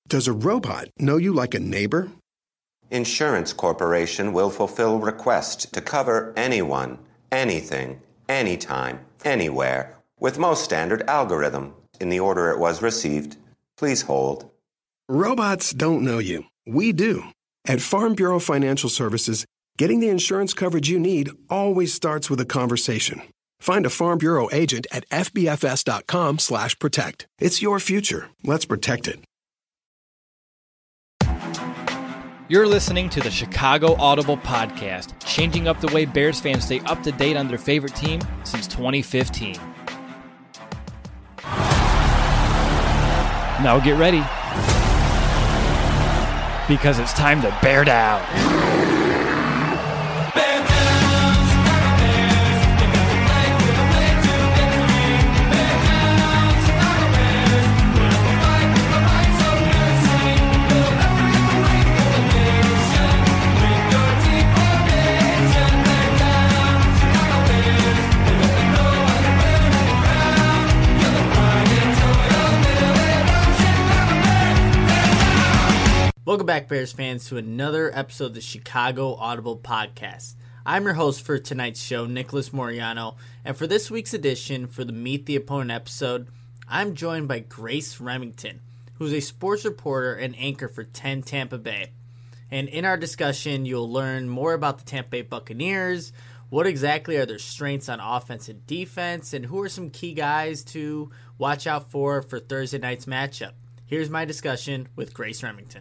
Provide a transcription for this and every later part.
Does a robot know you like a neighbor? Insurance Corporation will fulfill requests to cover anyone, anything, anytime, anywhere, with most standard algorithm in the order it was received. Please hold. Robots don't know you. We do. At Farm Bureau Financial Services, getting the insurance coverage you need always starts with a conversation. Find a Farm Bureau agent at fbfs.com/protect. It's your future. Let's protect it. You're listening to the Chicago Audible Podcast, changing up the way Bears fans stay up to date on their favorite team since 2015. Now get ready, because it's time to bear down. Welcome back, Bears fans, to another episode of the Chicago Audible Podcast. I'm your host for tonight's show, Nicholas Moriano, and for this week's edition, for the Meet the Opponent episode, I'm joined by Grace Remington, who's a sports reporter and anchor for 10 Tampa Bay. And in our discussion, you'll learn more about the Tampa Bay Buccaneers, what exactly are their strengths on offense and defense, and who are some key guys to watch out for Thursday night's matchup. Here's my discussion with Grace Remington.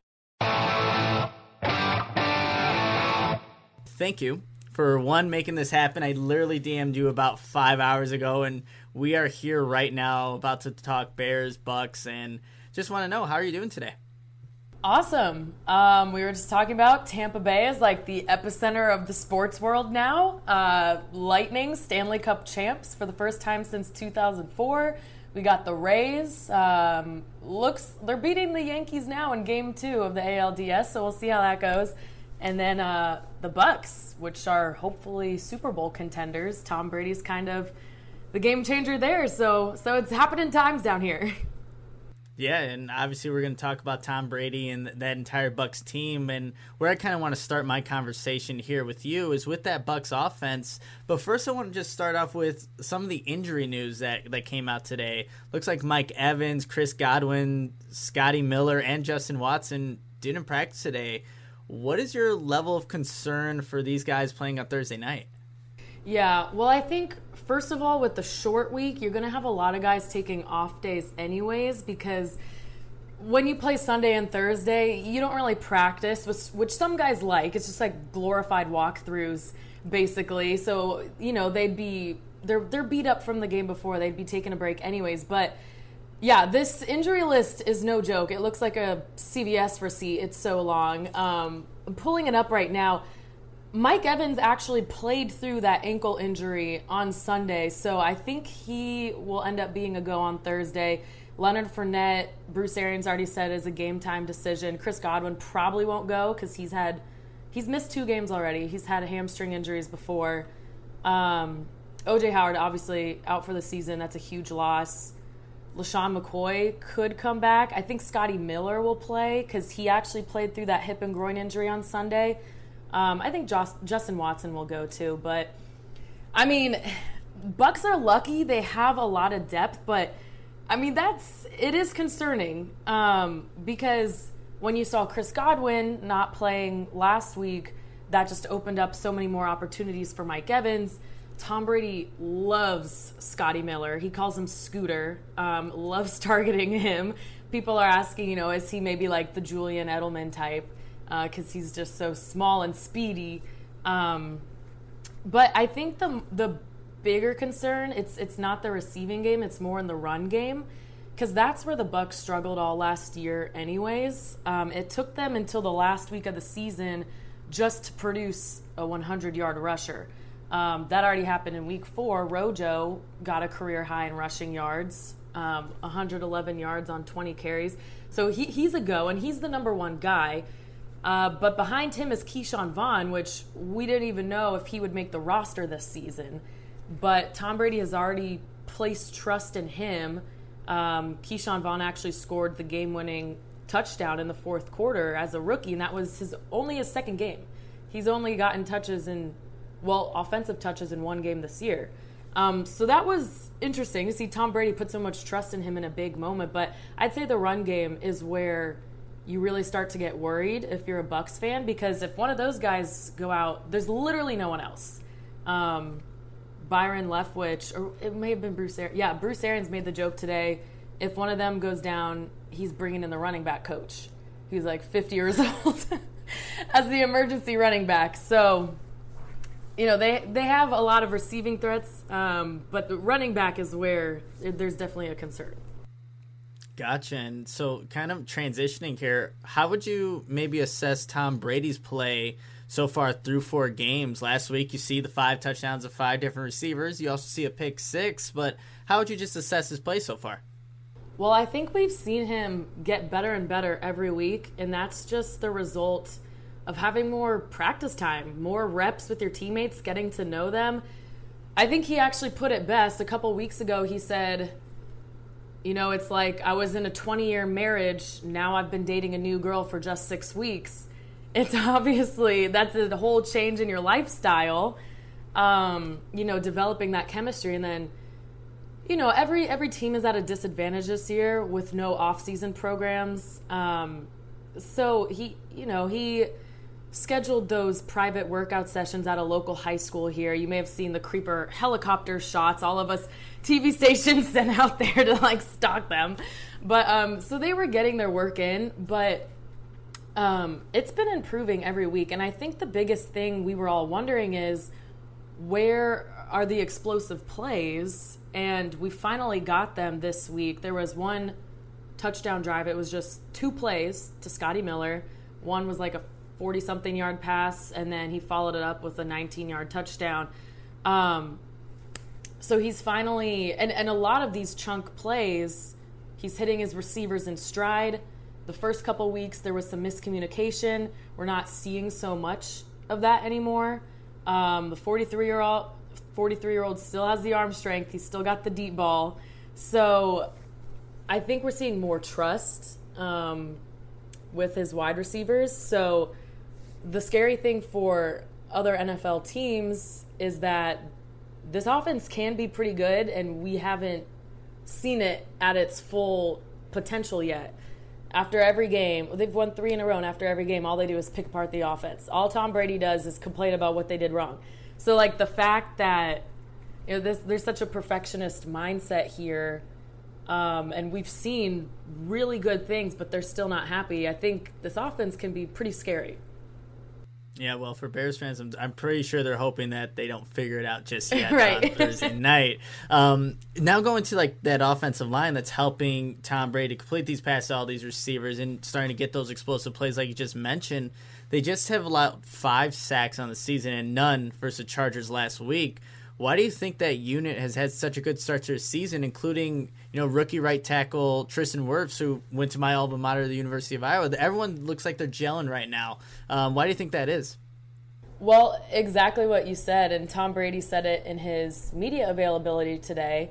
Thank you for making this happen. I literally DM'd you about 5 hours ago, and we are here right now about to talk Bears, Bucks, and just want to know, how are you doing today? Awesome. We were just talking about Tampa Bay is like the epicenter of the sports world now. Lightning, Stanley Cup champs for the first time since 2004. We got the Rays. They're beating the Yankees now in Game 2 of the ALDS, so we'll see how that goes. And then the Bucks, which are hopefully Super Bowl contenders. Tom Brady's kind of the game changer there, so it's happening times down here. Yeah, and obviously we're going to talk about Tom Brady and that entire Bucks team. And where I kind of want to start my conversation here with you is with that Bucks offense. But first I want to just start off with some of the injury news that came out today. Looks like Mike Evans, Chris Godwin, Scotty Miller, and Justin Watson didn't practice today. What is your level of concern for these guys playing on Thursday night? Yeah, well, I think, first of all, with the short week, you're going to have a lot of guys taking off days anyways, because when you play Sunday and Thursday, you don't really practice, which some guys like. It's just like glorified walkthroughs, basically. So, you know, they're beat up from the game before. They'd be taking a break anyways. But, yeah, this injury list is no joke. It looks like a CVS receipt. It's so long. I'm pulling it up right now. Mike Evans actually played through that ankle injury on Sunday, so I think he will end up being a go on Thursday. Leonard Fournette, Bruce Arians already said is a game-time decision. Chris Godwin probably won't go because he's missed 2 games already. He's had hamstring injuries before. O.J. Howard, obviously, out for the season. That's a huge loss. LaShawn McCoy could come back. I think Scotty Miller will play because he actually played through that hip and groin injury on Sunday. I think Justin Watson will go too, but I mean, Bucks are lucky they have a lot of depth, but I mean it is concerning because when you saw Chris Godwin not playing last week, that just opened up so many more opportunities for Mike Evans. Tom Brady loves Scotty Miller. He calls him Scooter, loves targeting him. People are asking, is he maybe like the Julian Edelman type? Because he's just so small and speedy. But I think the bigger concern, it's not the receiving game, it's more in the run game, because that's where the Bucs struggled all last year anyways. It took them until the last week of the season just to produce a 100-yard rusher. That already happened in week 4. Rojo got a career high in rushing yards, 111 yards on 20 carries. So he's a go, and he's the number one guy. But behind him is Keyshawn Vaughn, which we didn't even know if he would make the roster this season. But Tom Brady has already placed trust in him. Keyshawn Vaughn actually scored the game-winning touchdown in the fourth quarter as a rookie, and that was only his second game. He's only gotten offensive touches in one game this year. So that was interesting to see Tom Brady put so much trust in him in a big moment. But I'd say the run game is where you really start to get worried if you're a Bucs fan, because if one of those guys go out, there's literally no one else. Byron Leftwich, or it may have been Bruce Arians. Yeah, Bruce Arians made the joke today. If one of them goes down, he's bringing in the running back coach. He's like 50 years old as the emergency running back. So, they have a lot of receiving threats, but the running back is where there's definitely a concern. Gotcha. And so kind of transitioning here, how would you maybe assess Tom Brady's play so far through 4 games? Last week, you see the 5 touchdowns of 5 different receivers. You also see a pick 6, but how would you just assess his play so far? Well, I think we've seen him get better and better every week, and that's just the result of having more practice time, more reps with your teammates, getting to know them. I think he actually put it best. A couple weeks ago, he said, it's like I was in a 20-year marriage. Now I've been dating a new girl for just 6 weeks. It's obviously, that's a whole change in your lifestyle, developing that chemistry. And then, every team is at a disadvantage this year with no off-season programs. So he scheduled those private workout sessions at a local high school here. You may have seen the creeper helicopter shots all of us TV stations sent out there to stalk them. But so they were getting their work in, but it's been improving every week. And I think the biggest thing we were all wondering is, where are the explosive plays? And we finally got them this week. There was one touchdown drive. It was just 2 plays to Scotty Miller. One was like a 40-something yard pass, and then he followed it up with a 19-yard touchdown. So he's finally, and a lot of these chunk plays, he's hitting his receivers in stride. The first couple weeks, there was some miscommunication. We're not seeing so much of that anymore. The 43-year-old still has the arm strength. He's still got the deep ball. So I think we're seeing more trust with his wide receivers. So the scary thing for other NFL teams is that this offense can be pretty good, and we haven't seen it at its full potential yet. After every game, they've won 3 in a row, and after every game, all they do is pick apart the offense. All Tom Brady does is complain about what they did wrong. So, the fact that there's such a perfectionist mindset here, and we've seen really good things, but they're still not happy. I think this offense can be pretty scary. Yeah, well, for Bears fans, I'm pretty sure they're hoping that they don't figure it out just yet right. on Thursday night. Now going to that offensive line that's helping Tom Brady complete these passes to all these receivers and starting to get those explosive plays like you just mentioned. They just have allowed 5 sacks on the season and none versus the Chargers last week. Why do you think that unit has had such a good start to the season, including rookie right tackle Tristan Wirfs, who went to my alma mater, the University of Iowa? Everyone looks like they're gelling right now. Why do you think that is? Well, exactly what you said, and Tom Brady said it in his media availability today.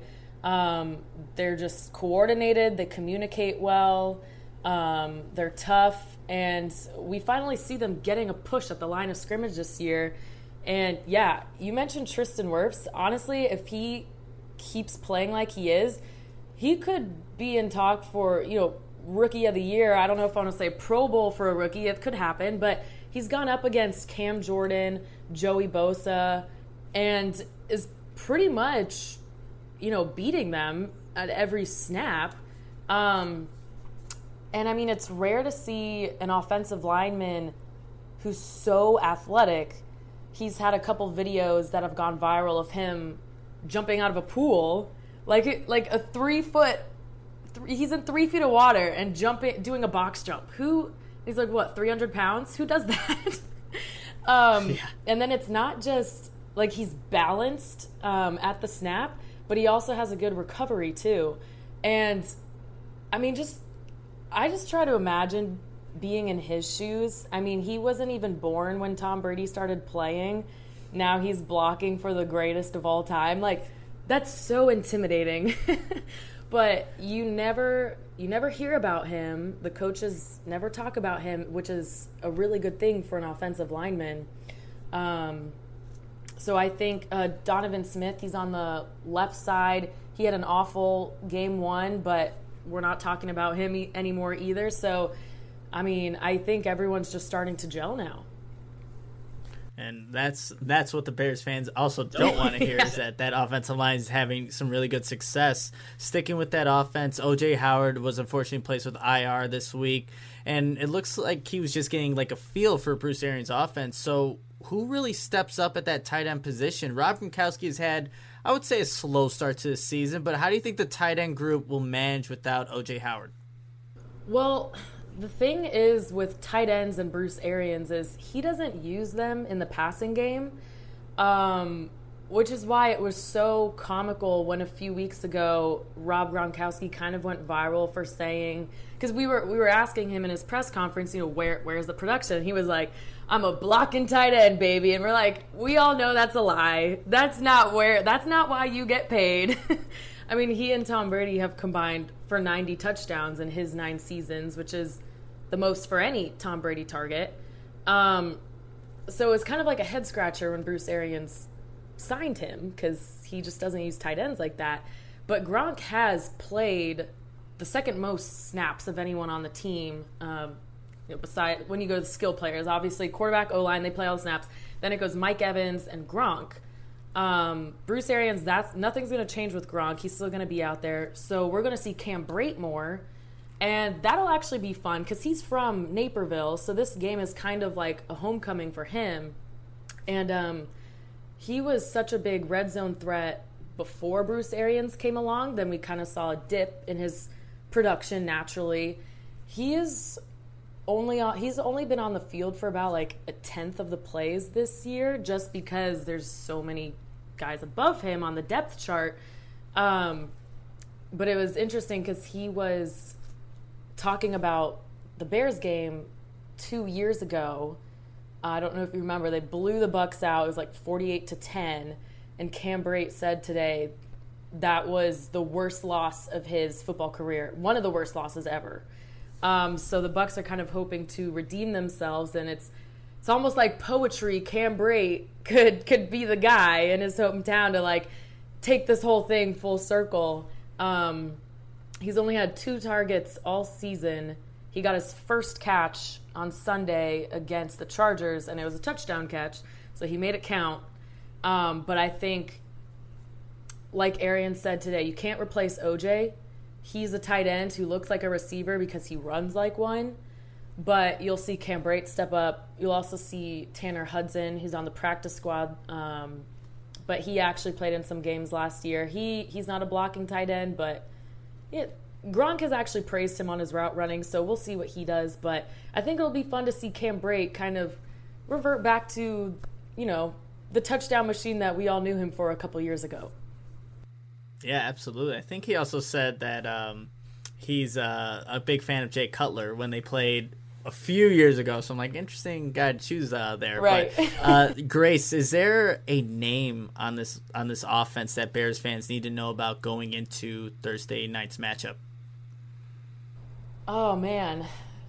They're just coordinated, they communicate well, they're tough, and we finally see them getting a push at the line of scrimmage this year. And yeah, you mentioned Tristan Wirfs. Honestly, if he keeps playing like he is, he could be in talk for, rookie of the year. I don't know if I want to say Pro Bowl for a rookie. It could happen, but he's gone up against Cam Jordan, Joey Bosa, and is pretty much, beating them at every snap. And I mean, it's rare to see an offensive lineman who's so athletic. He's had a couple videos that have gone viral of him jumping out of a pool, like a 3 foot. He's in 3 feet of water and doing a box jump. He's 300 pounds? Who does that? Yeah. And then it's not just he's balanced at the snap, but he also has a good recovery too. And I mean, I just try to imagine being in his shoes. I mean, he wasn't even born when Tom Brady started playing. Now he's blocking for the greatest of all time. That's so intimidating. But you never you never hear about him. The coaches never talk about him, which is a really good thing for an offensive lineman. So I think Donovan Smith, he's on the left side. He had an awful game one, but we're not talking about him anymore either. So, I mean, I think everyone's just starting to gel now. And that's what the Bears fans also don't want to hear, is that offensive line is having some really good success. Sticking with that offense, O.J. Howard was unfortunately placed with IR this week, and it looks like he was just getting like a feel for Bruce Arians' offense. So who really steps up at that tight end position? Rob Gronkowski has had, I would say, a slow start to the season, but how do you think the tight end group will manage without O.J. Howard? Well, the thing is with tight ends and Bruce Arians is he doesn't use them in the passing game, which is why it was so comical when a few weeks ago Rob Gronkowski kind of went viral for saying, because we were asking him in his press conference, where's the production? And he was like, I'm a blocking tight end, baby. And we're like, we all know that's a lie. That's not why you get paid. I mean, he and Tom Brady have combined for 90 touchdowns in his 9 seasons, which is the most for any Tom Brady target. So it's kind of like a head scratcher when Bruce Arians signed him, because he just doesn't use tight ends like that. But Gronk has played the second most snaps of anyone on the team. Beside when you go to the skill players, obviously quarterback, O-line, they play all the snaps. Then it goes Mike Evans and Gronk. Bruce Arians, nothing's going to change with Gronk. He's still going to be out there. So we're going to see Cam Brate more. And that'll actually be fun because he's from Naperville. So this game is kind of like a homecoming for him. And he was such a big red zone threat before Bruce Arians came along. Then we kind of saw a dip in his production naturally. He's only been on the field for about like a tenth of the plays this year, just because there's so many guys above him on the depth chart. But it was interesting because he was talking about the Bears game 2 years ago. I don't know if you remember, they blew the Bucs out. It was like 48-10, and Cam Brate said today that was the worst loss of his football career, one of the worst losses ever. So the Bucs are kind of hoping to redeem themselves, and it's almost like poetry. Cam Brate could be the guy in his hometown to like take this whole thing full circle. He's only had 2 targets all season. He got his first catch on Sunday against the Chargers, and it was a touchdown catch, so he made it count. But I think, like Arians said today, you can't replace OJ. He's a tight end who looks like a receiver because he runs like one. But you'll see Cam Brate step up. You'll also see Tanner Hudson, who's on the practice squad. But he actually played in some games last year. He's not a blocking tight end, but Gronk has actually praised him on his route running, so we'll see what he does. But I think it'll be fun to see Cam Brate kind of revert back to, the touchdown machine that we all knew him for a couple years ago. Yeah, absolutely. I think he also said that he's a big fan of Jay Cutler when they played a few years ago. So I'm like, interesting guy to choose there. Right. But Grace, is there a name on this offense that Bears fans need to know about going into Thursday night's matchup? Oh man,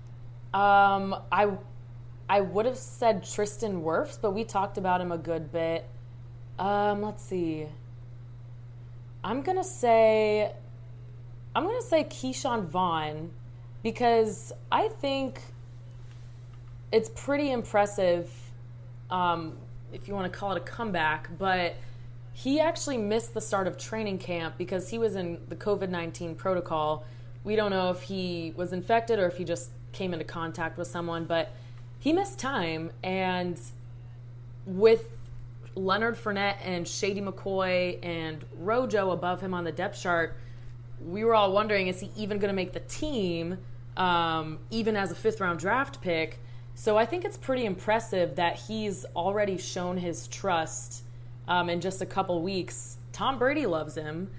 I would have said Tristan Wirfs, but we talked about him a good bit. Let's see. I'm gonna say Keyshawn Vaughn, because I think it's pretty impressive, if you want to call it a comeback, but he actually missed the start of training camp because he was in the COVID-19 protocol. We don't know if he was infected or if he just came into contact with someone, but he missed time. And with Leonard Fournette and Shady McCoy and Rojo above him on the depth chart, we were all wondering, is he even going to make the team, even as a 5th-round draft pick? So I think it's pretty impressive that he's already shown his trust in just a couple weeks. Tom Brady loves him.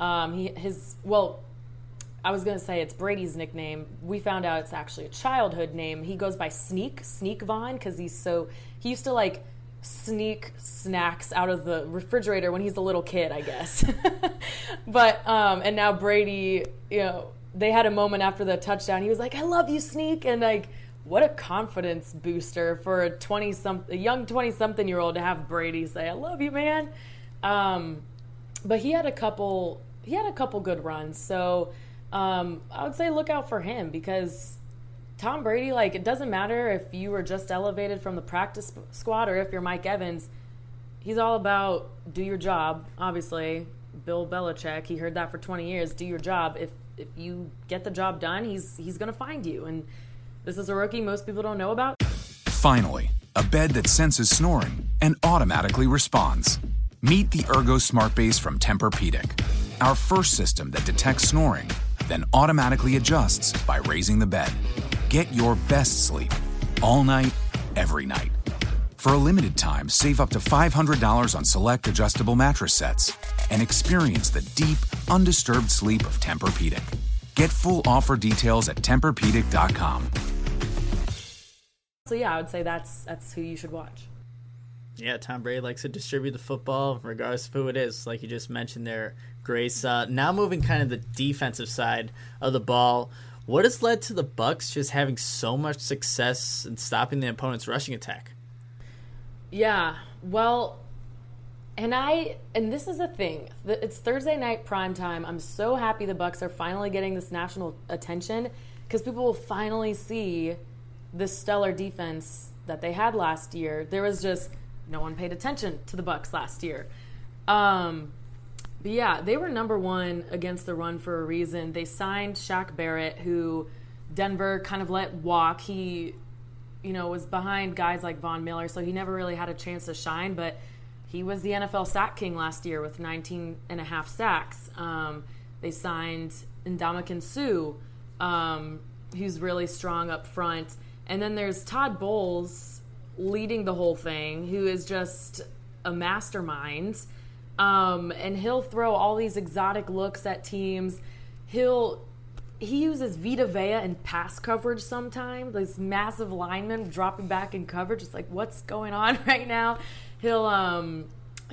I was going to say it's Brady's nickname. We found out it's actually a childhood name. He goes by Sneak Vaughn, because he used to like sneak snacks out of the refrigerator when he's a little kid, I guess. But and now Brady, they had a moment after the touchdown. He was like, "I love you, Sneak," and like, what a confidence booster for a young 20-something-year-old to have Brady say, "I love you, man." But he had a couple good runs, so I would say look out for him, because Tom Brady, like, it doesn't matter if you were just elevated from the practice squad or if you're Mike Evans. He's all about do your job. Obviously, Bill Belichick, he heard that for 20 years. Do your job. If you get the job done, he's going to find you. And this is a rookie most people don't know about. Finally, a bed that senses snoring and automatically responds. Meet the Ergo Smart Base from Tempur-Pedic, our first system that detects snoring, then automatically adjusts by raising the bed. Get your best sleep all night, every night. For a limited time, save up to $500 on select adjustable mattress sets and experience the deep, undisturbed sleep of Tempur-Pedic. Get full offer details at TempurPedic.com. So yeah, I would say that's who you should watch. Yeah, Tom Brady likes to distribute the football regardless of who it is, like you just mentioned there, Grace. Now moving kind of the defensive side of the ball, what has led to the Bucs just having so much success in stopping the opponent's rushing attack? Yeah, well, and this is the thing. It's Thursday night primetime. I'm so happy the Bucs are finally getting this national attention, because people will finally see this stellar defense that they had last year. There was just no one paid attention to the Bucs last year. But yeah, they were number one against the run for a reason. They signed Shaq Barrett, who Denver kind of let walk. He, was behind guys like Von Miller, so he never really had a chance to shine, but he was the NFL sack king last year with 19 and a half sacks. They signed Ndamukong Suh, who's really strong up front. And then there's Todd Bowles leading the whole thing, who is just a mastermind. And he'll throw all these exotic looks at teams. He uses Vita Vea in pass coverage sometimes. This massive lineman dropping back in coverage. It's like, what's going on right now? He loves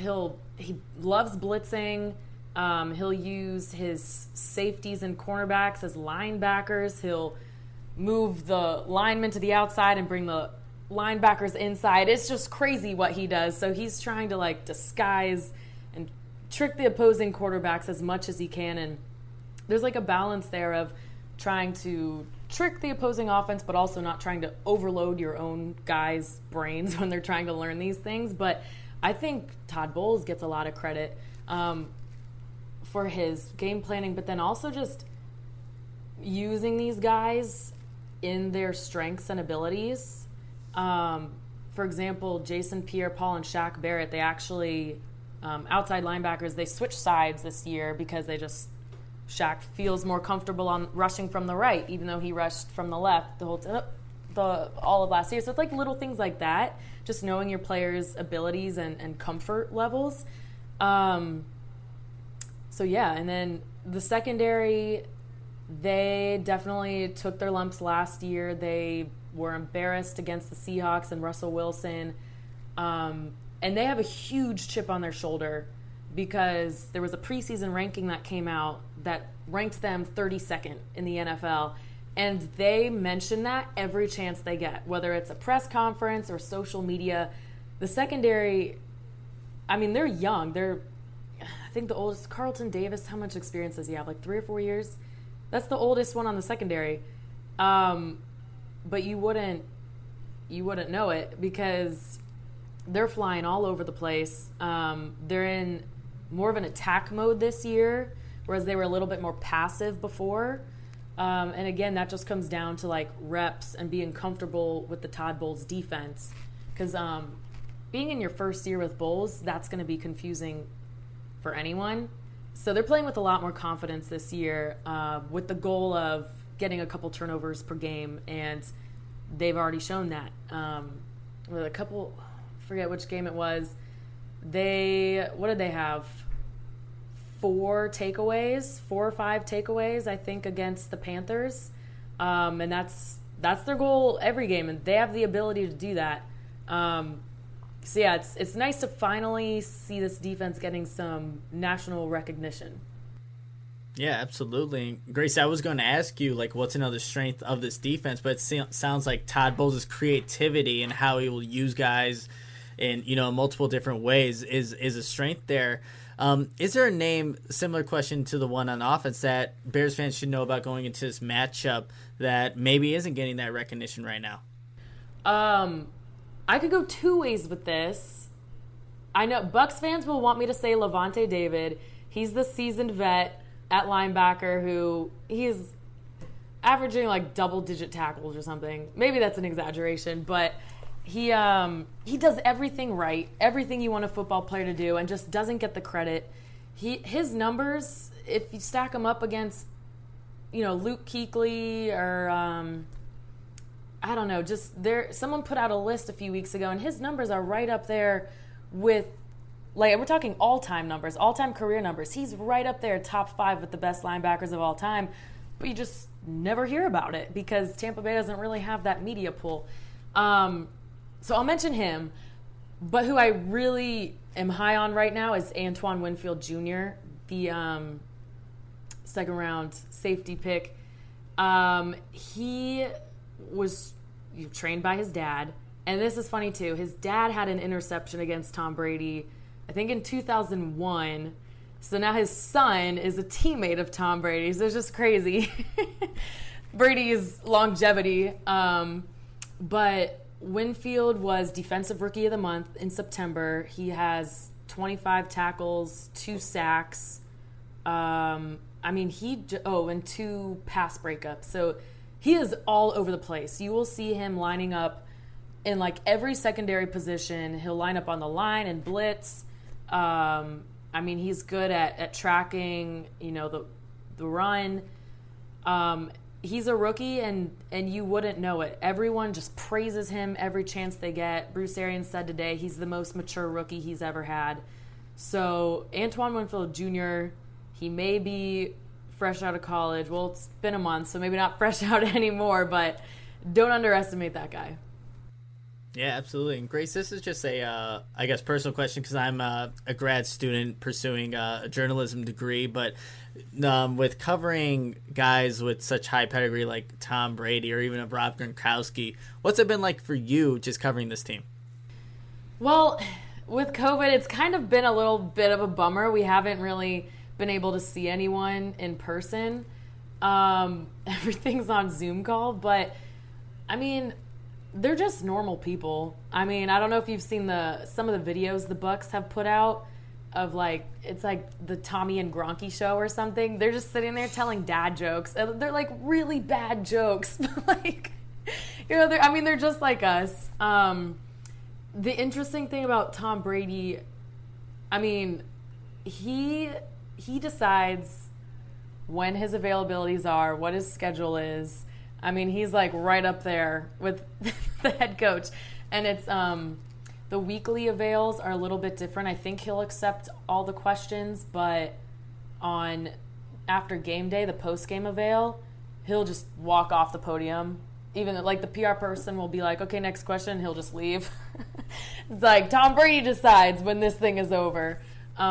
blitzing. He'll use his safeties and cornerbacks as linebackers. He'll move the linemen to the outside and bring the linebackers inside. It's just crazy what he does. So he's trying to disguise and trick the opposing quarterbacks as much as he can. And there's a balance there of trying to trick the opposing offense, but also not trying to overload your own guys' brains when they're trying to learn these things. But I think Todd Bowles gets a lot of credit for his game planning, but then also just using these guys in their strengths and abilities. For example, Jason Pierre-Paul and Shaq Barrett, they actually, outside linebackers, they switched sides this year because Shaq feels more comfortable on rushing from the right, even though he rushed from the left all of last year. So it's little things like that, just knowing your players' abilities and comfort levels. So yeah, and then the secondary, they definitely took their lumps last year. They were embarrassed against the Seahawks and Russell Wilson. And they have a huge chip on their shoulder because there was a preseason ranking that came out that ranked them 32nd in the NFL. And they mention that every chance they get, whether it's a press conference or social media. The secondary, they're young. I think the oldest, Carlton Davis, how much experience does he have? 3 or 4 years? That's the oldest one on the secondary. But you wouldn't know it because they're flying all over the place. They're in more of an attack mode this year, whereas they were a little bit more passive before. And again, that just comes down to reps and being comfortable with the Todd Bowles defense. Because being in your first year with Bowles, that's going to be confusing for anyone. So they're playing with a lot more confidence this year with the goal of getting a couple turnovers per game, and they've already shown that. With a couple, forget which game it was, what did they have? 4 or 5 takeaways, I think, against the Panthers. And that's their goal every game, and they have the ability to do that. So yeah, it's nice to finally see this defense getting some national recognition. Yeah, absolutely. Grace, I was going to ask you, like, what's another strength of this defense, but it sounds like Todd Bowles' creativity and how he will use guys in, multiple different ways is a strength there. Is there a name, similar question to the one on offense, that Bears fans should know about going into this matchup that maybe isn't getting that recognition right now? I could go two ways with this. I know Bucs fans will want me to say Lavonte David. He's the seasoned vet at linebacker who he's averaging like double-digit tackles or something. Maybe that's an exaggeration, but he does everything right, everything you want a football player to do, and just doesn't get the credit. His numbers, if you stack them up against, Luke Kuechly or I don't know, just there. Someone put out a list a few weeks ago, and his numbers are right up there with. Like, we're talking all-time numbers, all-time career numbers. He's right up there, top 5 with the best linebackers of all time. But you just never hear about it because Tampa Bay doesn't really have that media pull. So I'll mention him. But who I really am high on right now is Antoine Winfield Jr., the second-round safety pick. He was trained by his dad. And this is funny, too. His dad had an interception against Tom Brady, I think in 2001. So now his son is a teammate of Tom Brady. So it's just crazy. Brady's longevity. But Winfield was Defensive Rookie of the Month in September. He has 25 tackles, 2 sacks. And 2 pass breakups. So he is all over the place. You will see him lining up in like every secondary position. He'll line up on the line and blitz. He's good at tracking, the run. He's a rookie, and you wouldn't know it. Everyone just praises him every chance they get. Bruce Arians said today he's the most mature rookie he's ever had. So Antoine Winfield Jr., he may be fresh out of college. Well, it's been a month, so maybe not fresh out anymore, but don't underestimate that guy. Yeah, absolutely. And Grace, this is just a, personal question because I'm a grad student pursuing a journalism degree. But with covering guys with such high pedigree like Tom Brady or even Rob Gronkowski, what's it been like for you just covering this team? Well, with COVID, it's kind of been a little bit of a bummer. We haven't really been able to see anyone in person. Everything's on Zoom call, but they're just normal people. I don't know if you've seen some of the videos the Bucs have put out of it's like the Tommy and Gronky show or something. They're just sitting there telling dad jokes. They're like really bad jokes. They're just like us. The interesting thing about Tom Brady, he decides when his availabilities are, what his schedule is. He's like right up there with the head coach. And it's the weekly avails are a little bit different. I think he'll accept all the questions, but after game day, the post-game avail, he'll just walk off the podium. Even the PR person will be like, okay, next question, he'll just leave. It's like Tom Brady decides when this thing is over.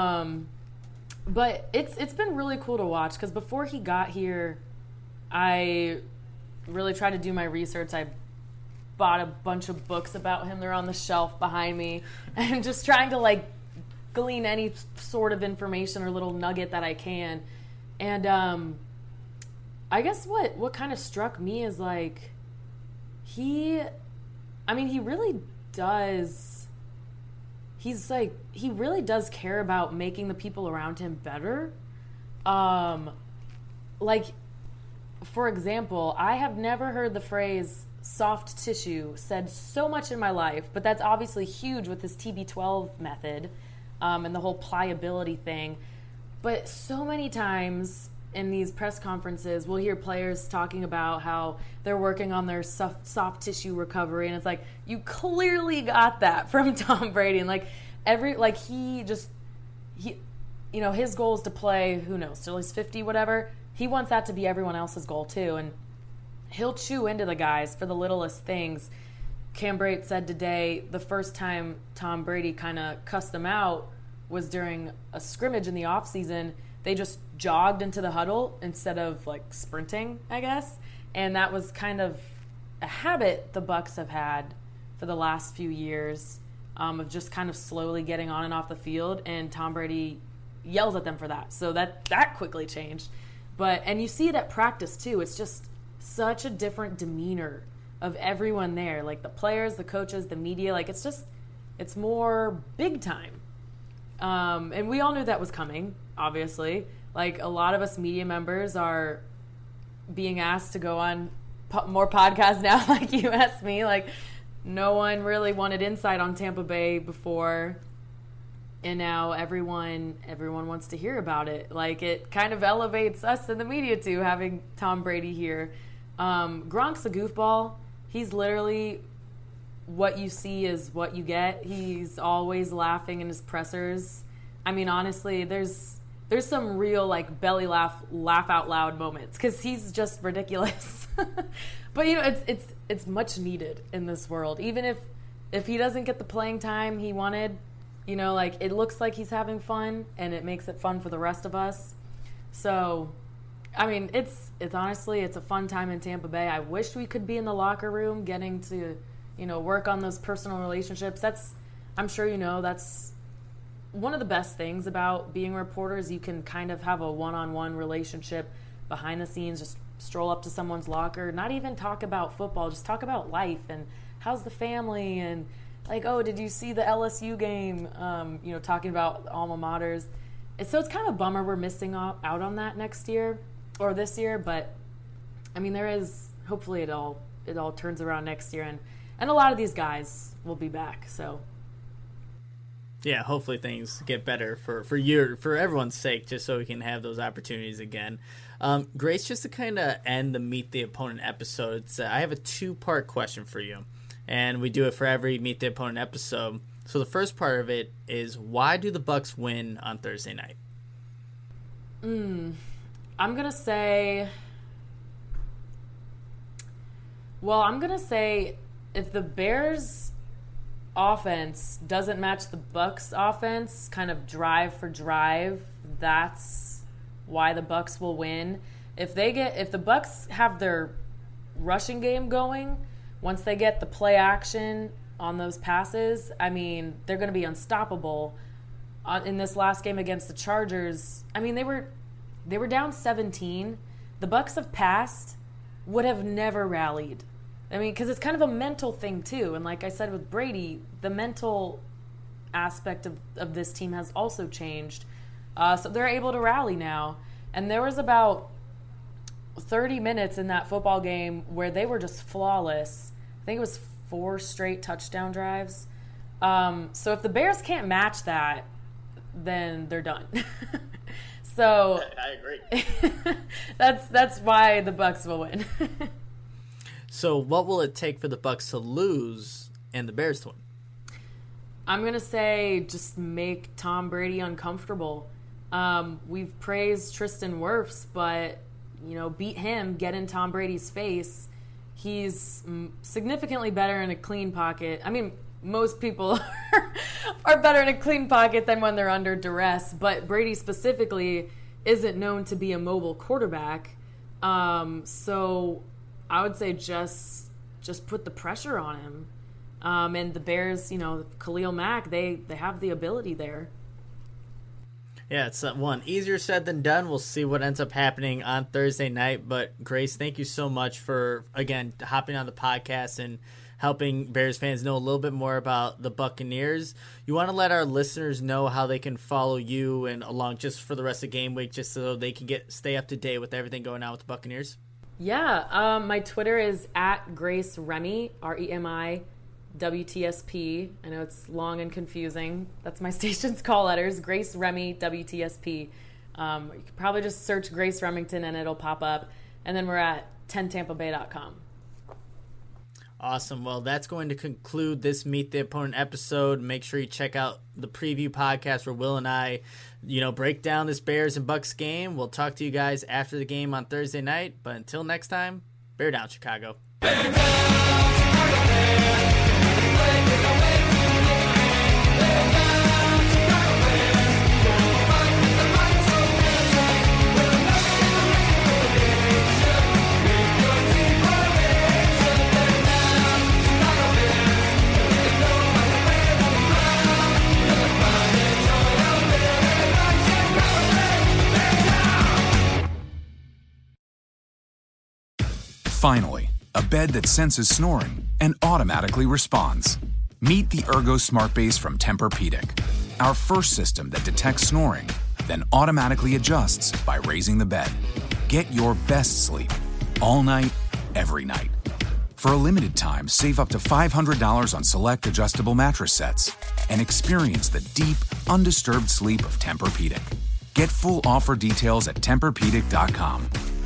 But it's been really cool to watch because before he got here, I really tried to do my research. I bought a bunch of books about him. They're on the shelf behind me. And just trying to glean any sort of information or little nugget that I can. And I guess what kind of struck me is he really does. He really does care about making the people around him better. For example, I have never heard the phrase soft tissue said so much in my life, but that's obviously huge with this TB12 method and the whole pliability thing. But so many times in these press conferences, we'll hear players talking about how they're working on their soft tissue recovery, and it's like, you clearly got that from Tom Brady. And his goal is to play, who knows, till he's 50, whatever. He wants that to be everyone else's goal too, and he'll chew into the guys for the littlest things. Cam Brate said today the first time Tom Brady kind of cussed them out was during a scrimmage in the offseason. they just jogged into the huddle instead of like sprinting, I guess. And that was kind of a habit the Bucs have had for the last few years, of just kind of slowly getting on and off the field, and Tom Brady yells at them for that. So that quickly changed. And you see it at practice too. It's just such a different demeanor of everyone there, like the players, the coaches, the media. Like it's more big time. And we all knew that was coming, obviously. Like a lot of us media members are being asked to go on more podcasts now, like you asked me. Like no one really wanted insight on Tampa Bay before, and now everyone wants to hear about it. Like it kind of elevates us in the media too, having Tom Brady here. Gronk's a goofball. He's literally what you see is what you get. He's always laughing in his pressers. I mean, honestly, there's some real like belly laugh out loud moments because he's just ridiculous. But it's much needed in this world. Even if he doesn't get the playing time he wanted, like it looks like he's having fun, and it makes it fun for the rest of us. So, I mean, it's honestly, it's a fun time in Tampa Bay. I wish we could be in the locker room getting to, work on those personal relationships. I'm sure that's one of the best things about being reporters. You can kind of have a one-on-one relationship behind the scenes, just stroll up to someone's locker, not even talk about football, just talk about life and how's the family, and like, oh, did you see the LSU game? Talking about alma maters. So it's kind of a bummer we're missing out on that next year or this year, but I mean, hopefully it all turns around next year, and a lot of these guys will be back. So yeah, hopefully things get better for everyone's sake, just so we can have those opportunities again. Grace, just to kind of end the Meet the Opponent episode, I have a 2-part question for you, and we do it for every Meet the Opponent episode. So the first part of it is, why do the Bucs win on Thursday night? I'm gonna say if the Bears offense doesn't match the Bucs offense, kind of drive for drive, that's why the Bucs will win. If the Bucs have their rushing game going, once they get the play action on those passes, I mean, they're going to be unstoppable. In this last game against the Chargers, I mean, they were down 17. The Bucs have passed, would have never rallied. I mean, because it's kind of a mental thing too. And like I said with Brady, the mental aspect of this team has also changed. So they're able to rally now. And there was about 30 minutes in that football game where they were just flawless. I think it was 4 straight touchdown drives. So if the Bears can't match that, then they're done. So I agree. that's why the Bucs will win. So what will it take for the Bucs to lose and the Bears to win? I'm going to say just make Tom Brady uncomfortable. We've praised Tristan Wirfs, but, beat him, get in Tom Brady's face. He's significantly better in a clean pocket. I mean, most people are better in a clean pocket than when they're under duress, but Brady specifically isn't known to be a mobile quarterback. So I would say just put the pressure on him. And the Bears, Khalil Mack, they have the ability there. Yeah, it's easier said than done. We'll see what ends up happening on Thursday night. But Grace, thank you so much for, again, hopping on the podcast and helping Bears fans know a little bit more about the Buccaneers. You want to let our listeners know how they can follow you and along just for the rest of game week, just so they can stay up to date with everything going on with the Buccaneers? Yeah, my Twitter is @GraceRemy, REMI WTSP. I know it's long and confusing. That's my station's call letters, Grace Remy WTSP. You could probably just search Grace Remington and it'll pop up. And then we're at 10tampabay.com. Awesome. Well, that's going to conclude this Meet the Opponent episode. Make sure you check out the preview podcast where Will and I, break down this Bears and Bucs game. We'll talk to you guys after the game on Thursday night. But until next time, bear down, Chicago. Bear down, Chicago Bears. Bear down, Chicago Bears. Fight with the might so Finally, a bed that senses snoring and automatically responds. Meet the Ergo Smart Base from Tempur-Pedic, our first system that detects snoring, then automatically adjusts by raising the bed. Get your best sleep all night, every night. For a limited time, save up to $500 on select adjustable mattress sets and experience the deep, undisturbed sleep of Tempur-Pedic. Get full offer details at TempurPedic.com.